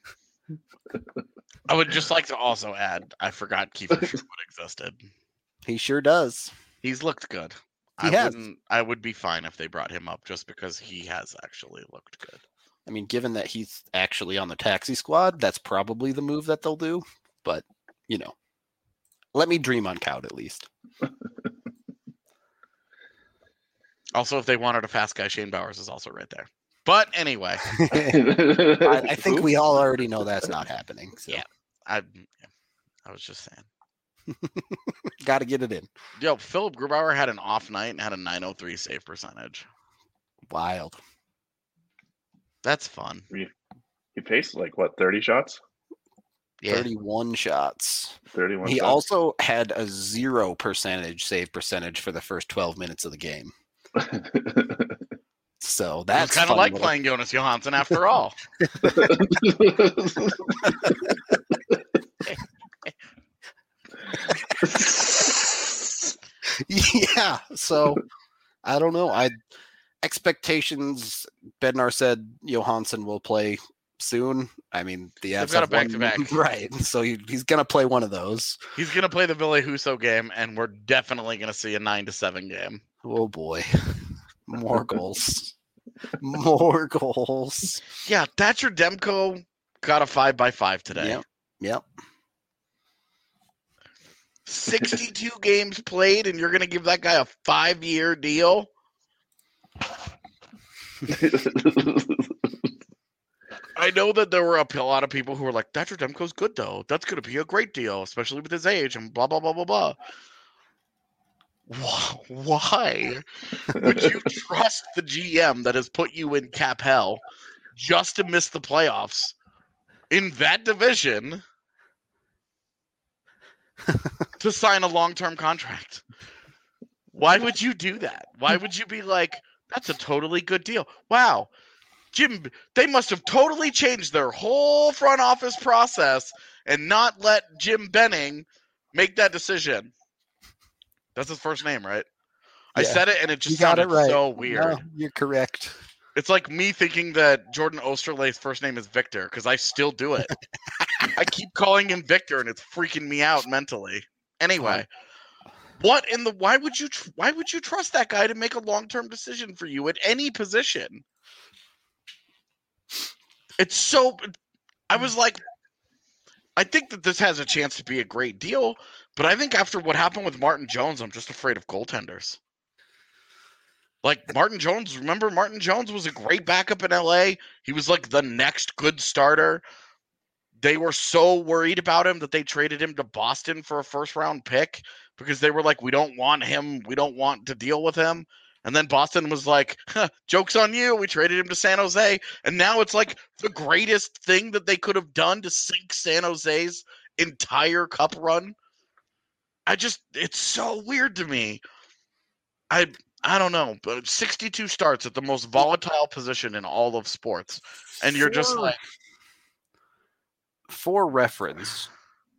I would just like to also add, I forgot Kiefer Sherwood existed. He sure does. He's looked good. I would be fine if they brought him up just because he has actually looked good. I mean, given that he's actually on the taxi squad, that's probably the move that they'll do. But, let me dream on Kaut at least. Also, if they wanted a fast guy, Shane Bowers is also right there. But anyway, I think we all already know that's not happening. So. Yeah. I was just saying. Got to get it in. Yo, Philip Grubauer had an off night and had a 903 save percentage. Wild. That's fun. He faced 30 shots? Yeah. 31 shots. 31 He shots. also had a 0% save percentage for the first 12 minutes of the game. So that's kind of like playing Jonas Johansson after all. Yeah. So I don't know. Expectations. Bednar said Johansson will play soon. I mean, the Avs got a back-to-back. Right. So he's going to play one of those. He's going to play the Ville Husso game, and we're definitely going to see a 9-7 game. Oh, boy. More goals. More goals. Yeah, Thatcher Demko got a 5x5 today. Yep. 62 games played, and you're going to give that guy a 5-year deal? I know that there were a lot of people who were like, Thatcher Demko's good, though. That's going to be a great deal, especially with his age and blah, blah, blah, blah, blah. Why would you trust the GM that has put you in cap hell just to miss the playoffs in that division to sign a long-term contract? Why would you do that? Why would you be like, that's a totally good deal? Wow. Jim, they must have totally changed their whole front office process and not let Jim Benning make that decision. That's his first name, right? Yeah. I said it and it just sounded so weird. No, you're correct. It's like me thinking that Jordan Osterley's first name is Victor because I still do it. I keep calling him Victor and it's freaking me out mentally. Anyway, why would you trust that guy to make a long-term decision for you at any position? It's so I was like, I think that this has a chance to be a great deal, but I think after what happened with Martin Jones, I'm just afraid of goaltenders. Like Martin Jones, remember Martin Jones was a great backup in LA. He was like the next good starter. They were so worried about him that they traded him to Boston for a first-round pick because they were like, we don't want him. We don't want to deal with him. And then Boston was like, joke's on you. We traded him to San Jose. And now it's like the greatest thing that they could have done to sink San Jose's entire cup run. It's so weird to me. I don't know, but 62 starts at the most volatile position in all of sports. And you're just like. For reference,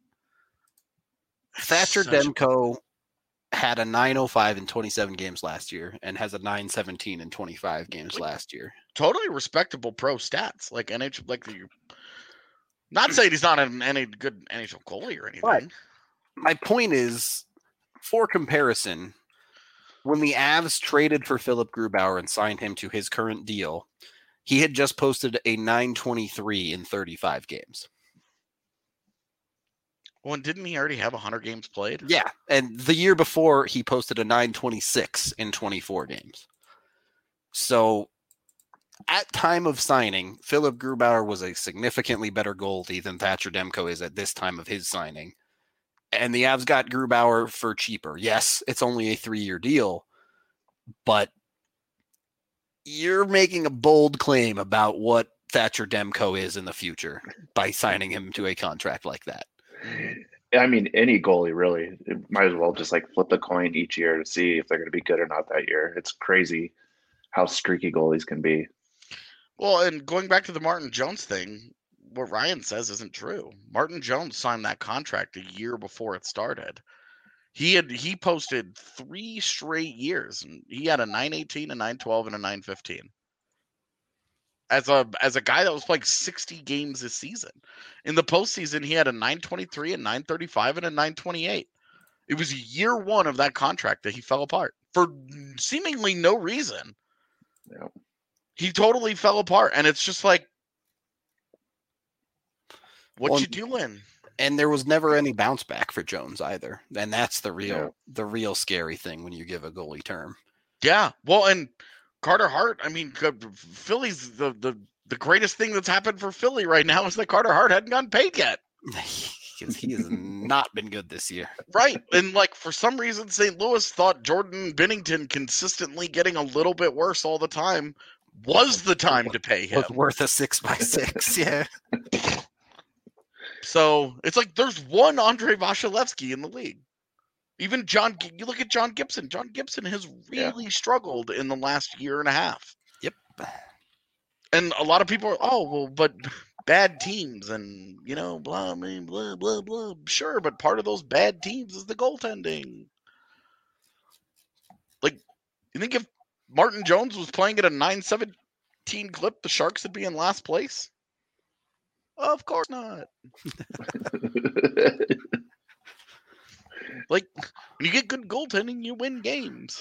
Thatcher Demko had a 905 in 27 games last year and has a 917 in 25 games last year. Totally respectable pro stats. Like NHL, not saying he's not any good NHL goalie or anything. But my point is, for comparison, when the Avs traded for Philip Grubauer and signed him to his current deal, he had just posted a 923 in 35 games. Well, and didn't he already have 100 games played? Yeah, and the year before, he posted a 926 in 24 games. So, at time of signing, Philip Grubauer was a significantly better goalie than Thatcher Demko is at this time of his signing. And the Avs got Grubauer for cheaper. Yes, it's only a 3-year deal, but you're making a bold claim about what Thatcher Demko is in the future by signing him to a contract like that. I mean, any goalie really might as well just flip the coin each year to see if they're going to be good or not that year. It's crazy how streaky goalies can be. Well, and going back to the Martin Jones thing, what Ryan says isn't true. Martin Jones signed that contract a year before it started. He posted 3 straight years, and he had a 918, a 912, and a 915. As a guy that was playing 60 games this season. In the postseason, he had a 923, a 935, and a 928. It was year 1 of that contract that he fell apart for seemingly no reason. Yep. He totally fell apart, and it's just like, what you doing? And there was never any bounce back for Jones either. And that's the real scary thing when you give a goalie term. Yeah. Well, and Carter Hart, I mean, Philly's the greatest thing that's happened for Philly right now is that Carter Hart hadn't gotten paid yet. Because he has not been good this year. Right. And like for some reason St. Louis thought Jordan Binnington consistently getting a little bit worse all the time was the time to pay him. Was worth a 6x6, yeah. So it's like there's one Andre Vasilevsky in the league. Even you look at John Gibson. John Gibson has really struggled in the last year and a half. Yep. And a lot of people are, but bad teams and, blah, blah, blah, blah. Sure, but part of those bad teams is the goaltending. Like, you think if Martin Jones was playing at a 9-17 clip, the Sharks would be in last place? Of course not. Like, when you get good goaltending, you win games.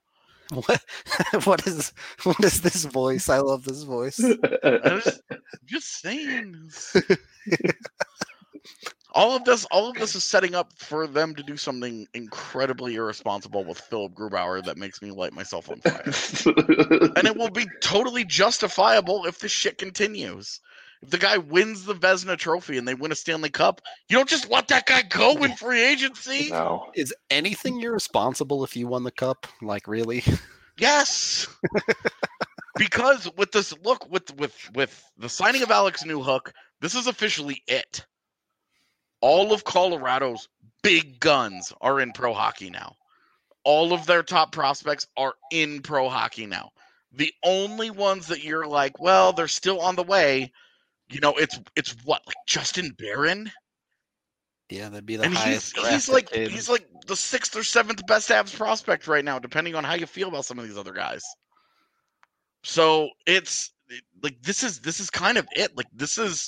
What is this voice? I love this voice. Just saying. All of this is setting up for them to do something incredibly irresponsible with Philip Grubauer that makes me light myself on fire. And it will be totally justifiable if this shit continues. If the guy wins the Vezina Trophy and they win a Stanley Cup, you don't just let that guy go in free agency. No. Is anything irresponsible if you won the cup? Like, really? Yes. Because with this look, with the signing of Alex Newhook, this is officially it. All of Colorado's big guns are in pro hockey now. All of their top prospects are in pro hockey now. The only ones that you're like, well, they're still on the way. It's what, like Justin Barron? Yeah, that'd be the and highest. He's like the 6th or 7th best Avs prospect right now, depending on how you feel about some of these other guys. So it's like this is kind of it. Like this is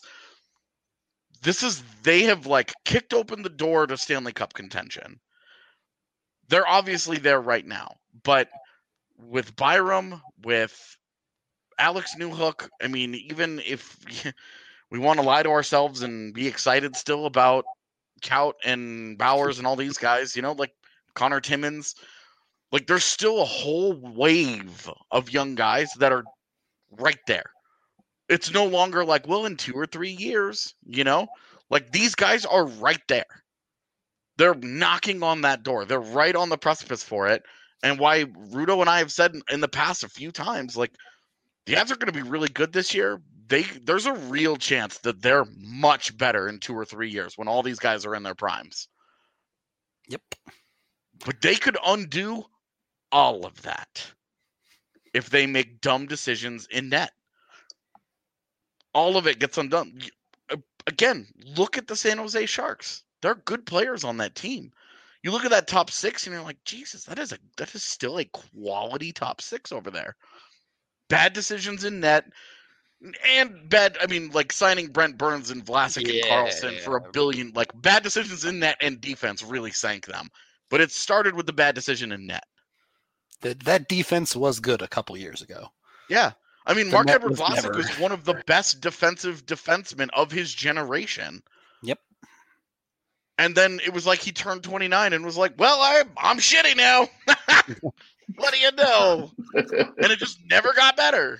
they have like kicked open the door to Stanley Cup contention. They're obviously there right now, but with Byram, with Alex Newhook, I mean, even if we want to lie to ourselves and be excited still about Kaut and Bowers and all these guys, like Connor Timmins, like there's still a whole wave of young guys that are right there. It's no longer like, well, in 2 or 3 years, like these guys are right there. They're knocking on that door. They're right on the precipice for it. And why Rudo and I have said in the past a few times, like, the Avs are going to be really good this year. There's a real chance that they're much better in 2 or 3 years when all these guys are in their primes. Yep. But they could undo all of that if they make dumb decisions in net. All of it gets undone. Again, look at the San Jose Sharks. They're good players on that team. You look at that top 6 and you're like, Jesus, that is still a quality top 6 over there. Bad decisions in net and like signing Brent Burns and Vlasic and Karlsson for $1 billion. Like bad decisions in net and defense really sank them. But it started with the bad decision in net. That defense was good a couple years ago. Yeah. I mean, Marc-Edouard Vlasic was one of the best defensive defensemen of his generation. Yep. And then it was like he turned 29 and was like, well, I'm shitty now. What do you know? And it just never got better.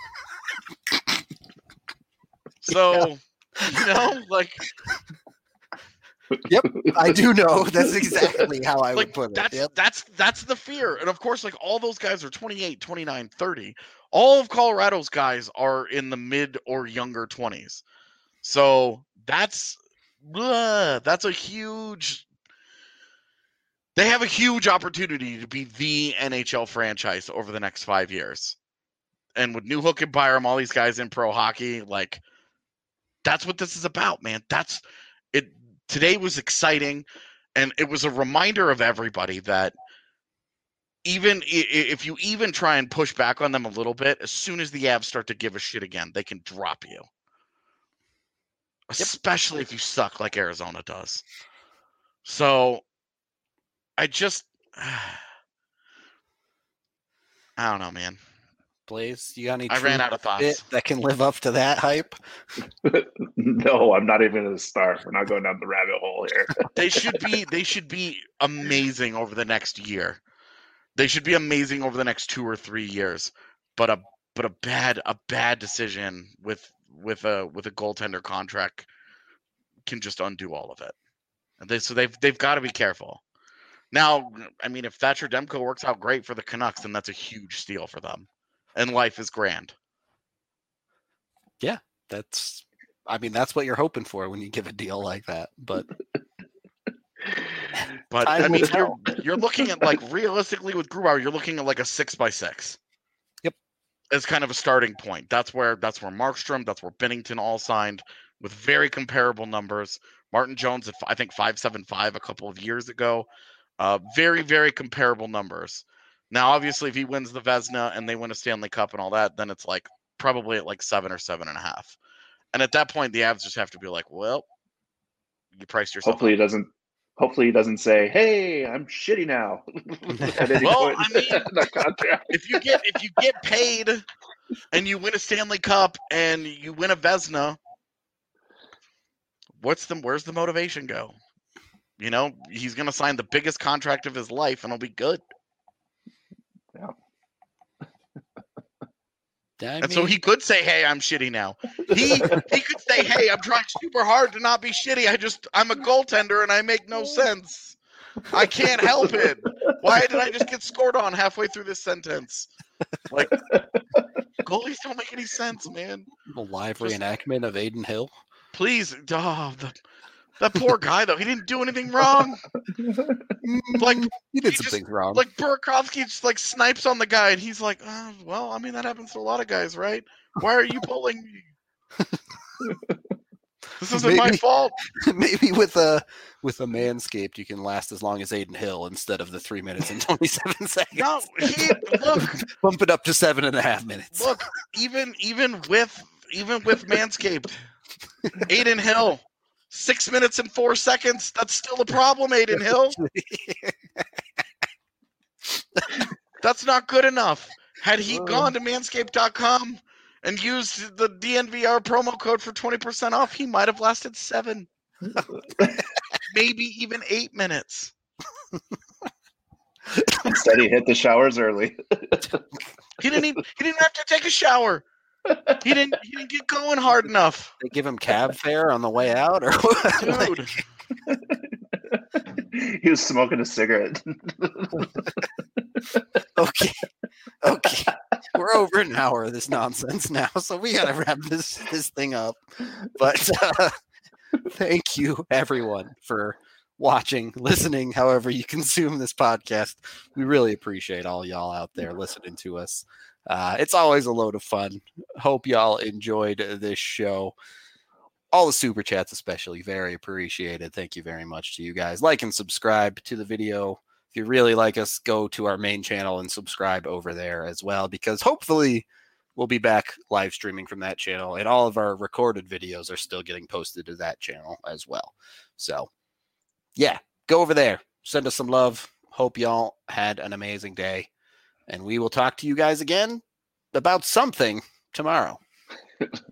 So, like... Yep, I do know. That's exactly how I would put it. Yep. That's the fear. And of course, like all those guys are 28, 29, 30. All of Colorado's guys are in the mid or younger 20s. So that's a huge... They have a huge opportunity to be the NHL franchise over the next 5 years. And with Newhook and Byram, all these guys in pro hockey, like, that's what this is about, man. That's it. Today was exciting, and it was a reminder of everybody that even if you even try and push back on them a little bit, as soon as the Avs start to give a shit again, they can drop you. Especially if you suck like Arizona does. So... I don't know, man. Blaze, you got any? I ran out of thoughts that can live up to that hype. No, I'm not even going to start. We're not going down the rabbit hole here. They should be amazing over the next year. They should be amazing over the next 2 or 3 years. but a bad decision with a goaltender contract can just undo all of it. And they've got to be careful. Now, I mean, if Thatcher Demko works out great for the Canucks, then that's a huge steal for them, and life is grand. Yeah, that's what you're hoping for when you give a deal like that. But I mean, you're looking at, like, realistically with Grubauer, you're looking at like a 6x6. Yep, as kind of a starting point. That's where Markstrom, that's where Binnington all signed with very comparable numbers. Martin Jones at I think 5.75 a couple of years ago. Very, very comparable numbers. Now, obviously, if he wins the Vezina and they win a Stanley Cup and all that, then it's like probably at like 7 or 7.5. And at that point, the Avs just have to be like, well, you priced yourself. Hopefully he doesn't say, "Hey, I'm shitty now." Well, I mean, if you get paid and you win a Stanley Cup and you win a Vezina, where's the motivation go? You know, he's going to sign the biggest contract of his life, and it'll be good. Yeah. And so he could say, "Hey, I'm shitty now." He could say, "Hey, I'm trying super hard to not be shitty. I'm a goaltender and I make no sense. I can't help it. Why did I just get scored on halfway through this sentence?" Like, goalies don't make any sense, man. A live reenactment of Adin Hill. Please, that poor guy, though. He didn't do anything wrong. Like, he did some things wrong. Like, Burakovsky just, like, snipes on the guy, and he's like, well, I mean, that happens to a lot of guys, right? Why are you pulling me? This isn't my fault. Maybe with a Manscaped, you can last as long as Adin Hill instead of the 3 minutes and 27 seconds. No, look. Bump it up to 7.5 minutes. Look, even with Manscaped, Adin Hill, 6 minutes and 4 seconds. That's still a problem, Adin Hill. That's not good enough. Had he gone to manscaped.com and used the DNVR promo code for 20% off, he might have lasted 7, maybe even 8 minutes. Instead, he hit the showers early. He didn't have to take a shower. He didn't get going hard enough. They give him cab fare on the way out, or what? Dude. He was smoking a cigarette. Okay. We're over an hour of this nonsense now, so we gotta wrap this thing up. But thank you, everyone, for watching, listening, however you consume this podcast. We really appreciate all y'all out there listening to us. It's always a load of fun. Hope y'all enjoyed this show. All the super chats especially, very appreciated. Thank you very much to you guys. Like and subscribe to the video. If you really like us, go to our main channel and subscribe over there as well, because hopefully we'll be back live streaming from that channel, and all of our recorded videos are still getting posted to that channel as well. So yeah, go over there. Send us some love. Hope y'all had an amazing day. And we will talk to you guys again about something tomorrow.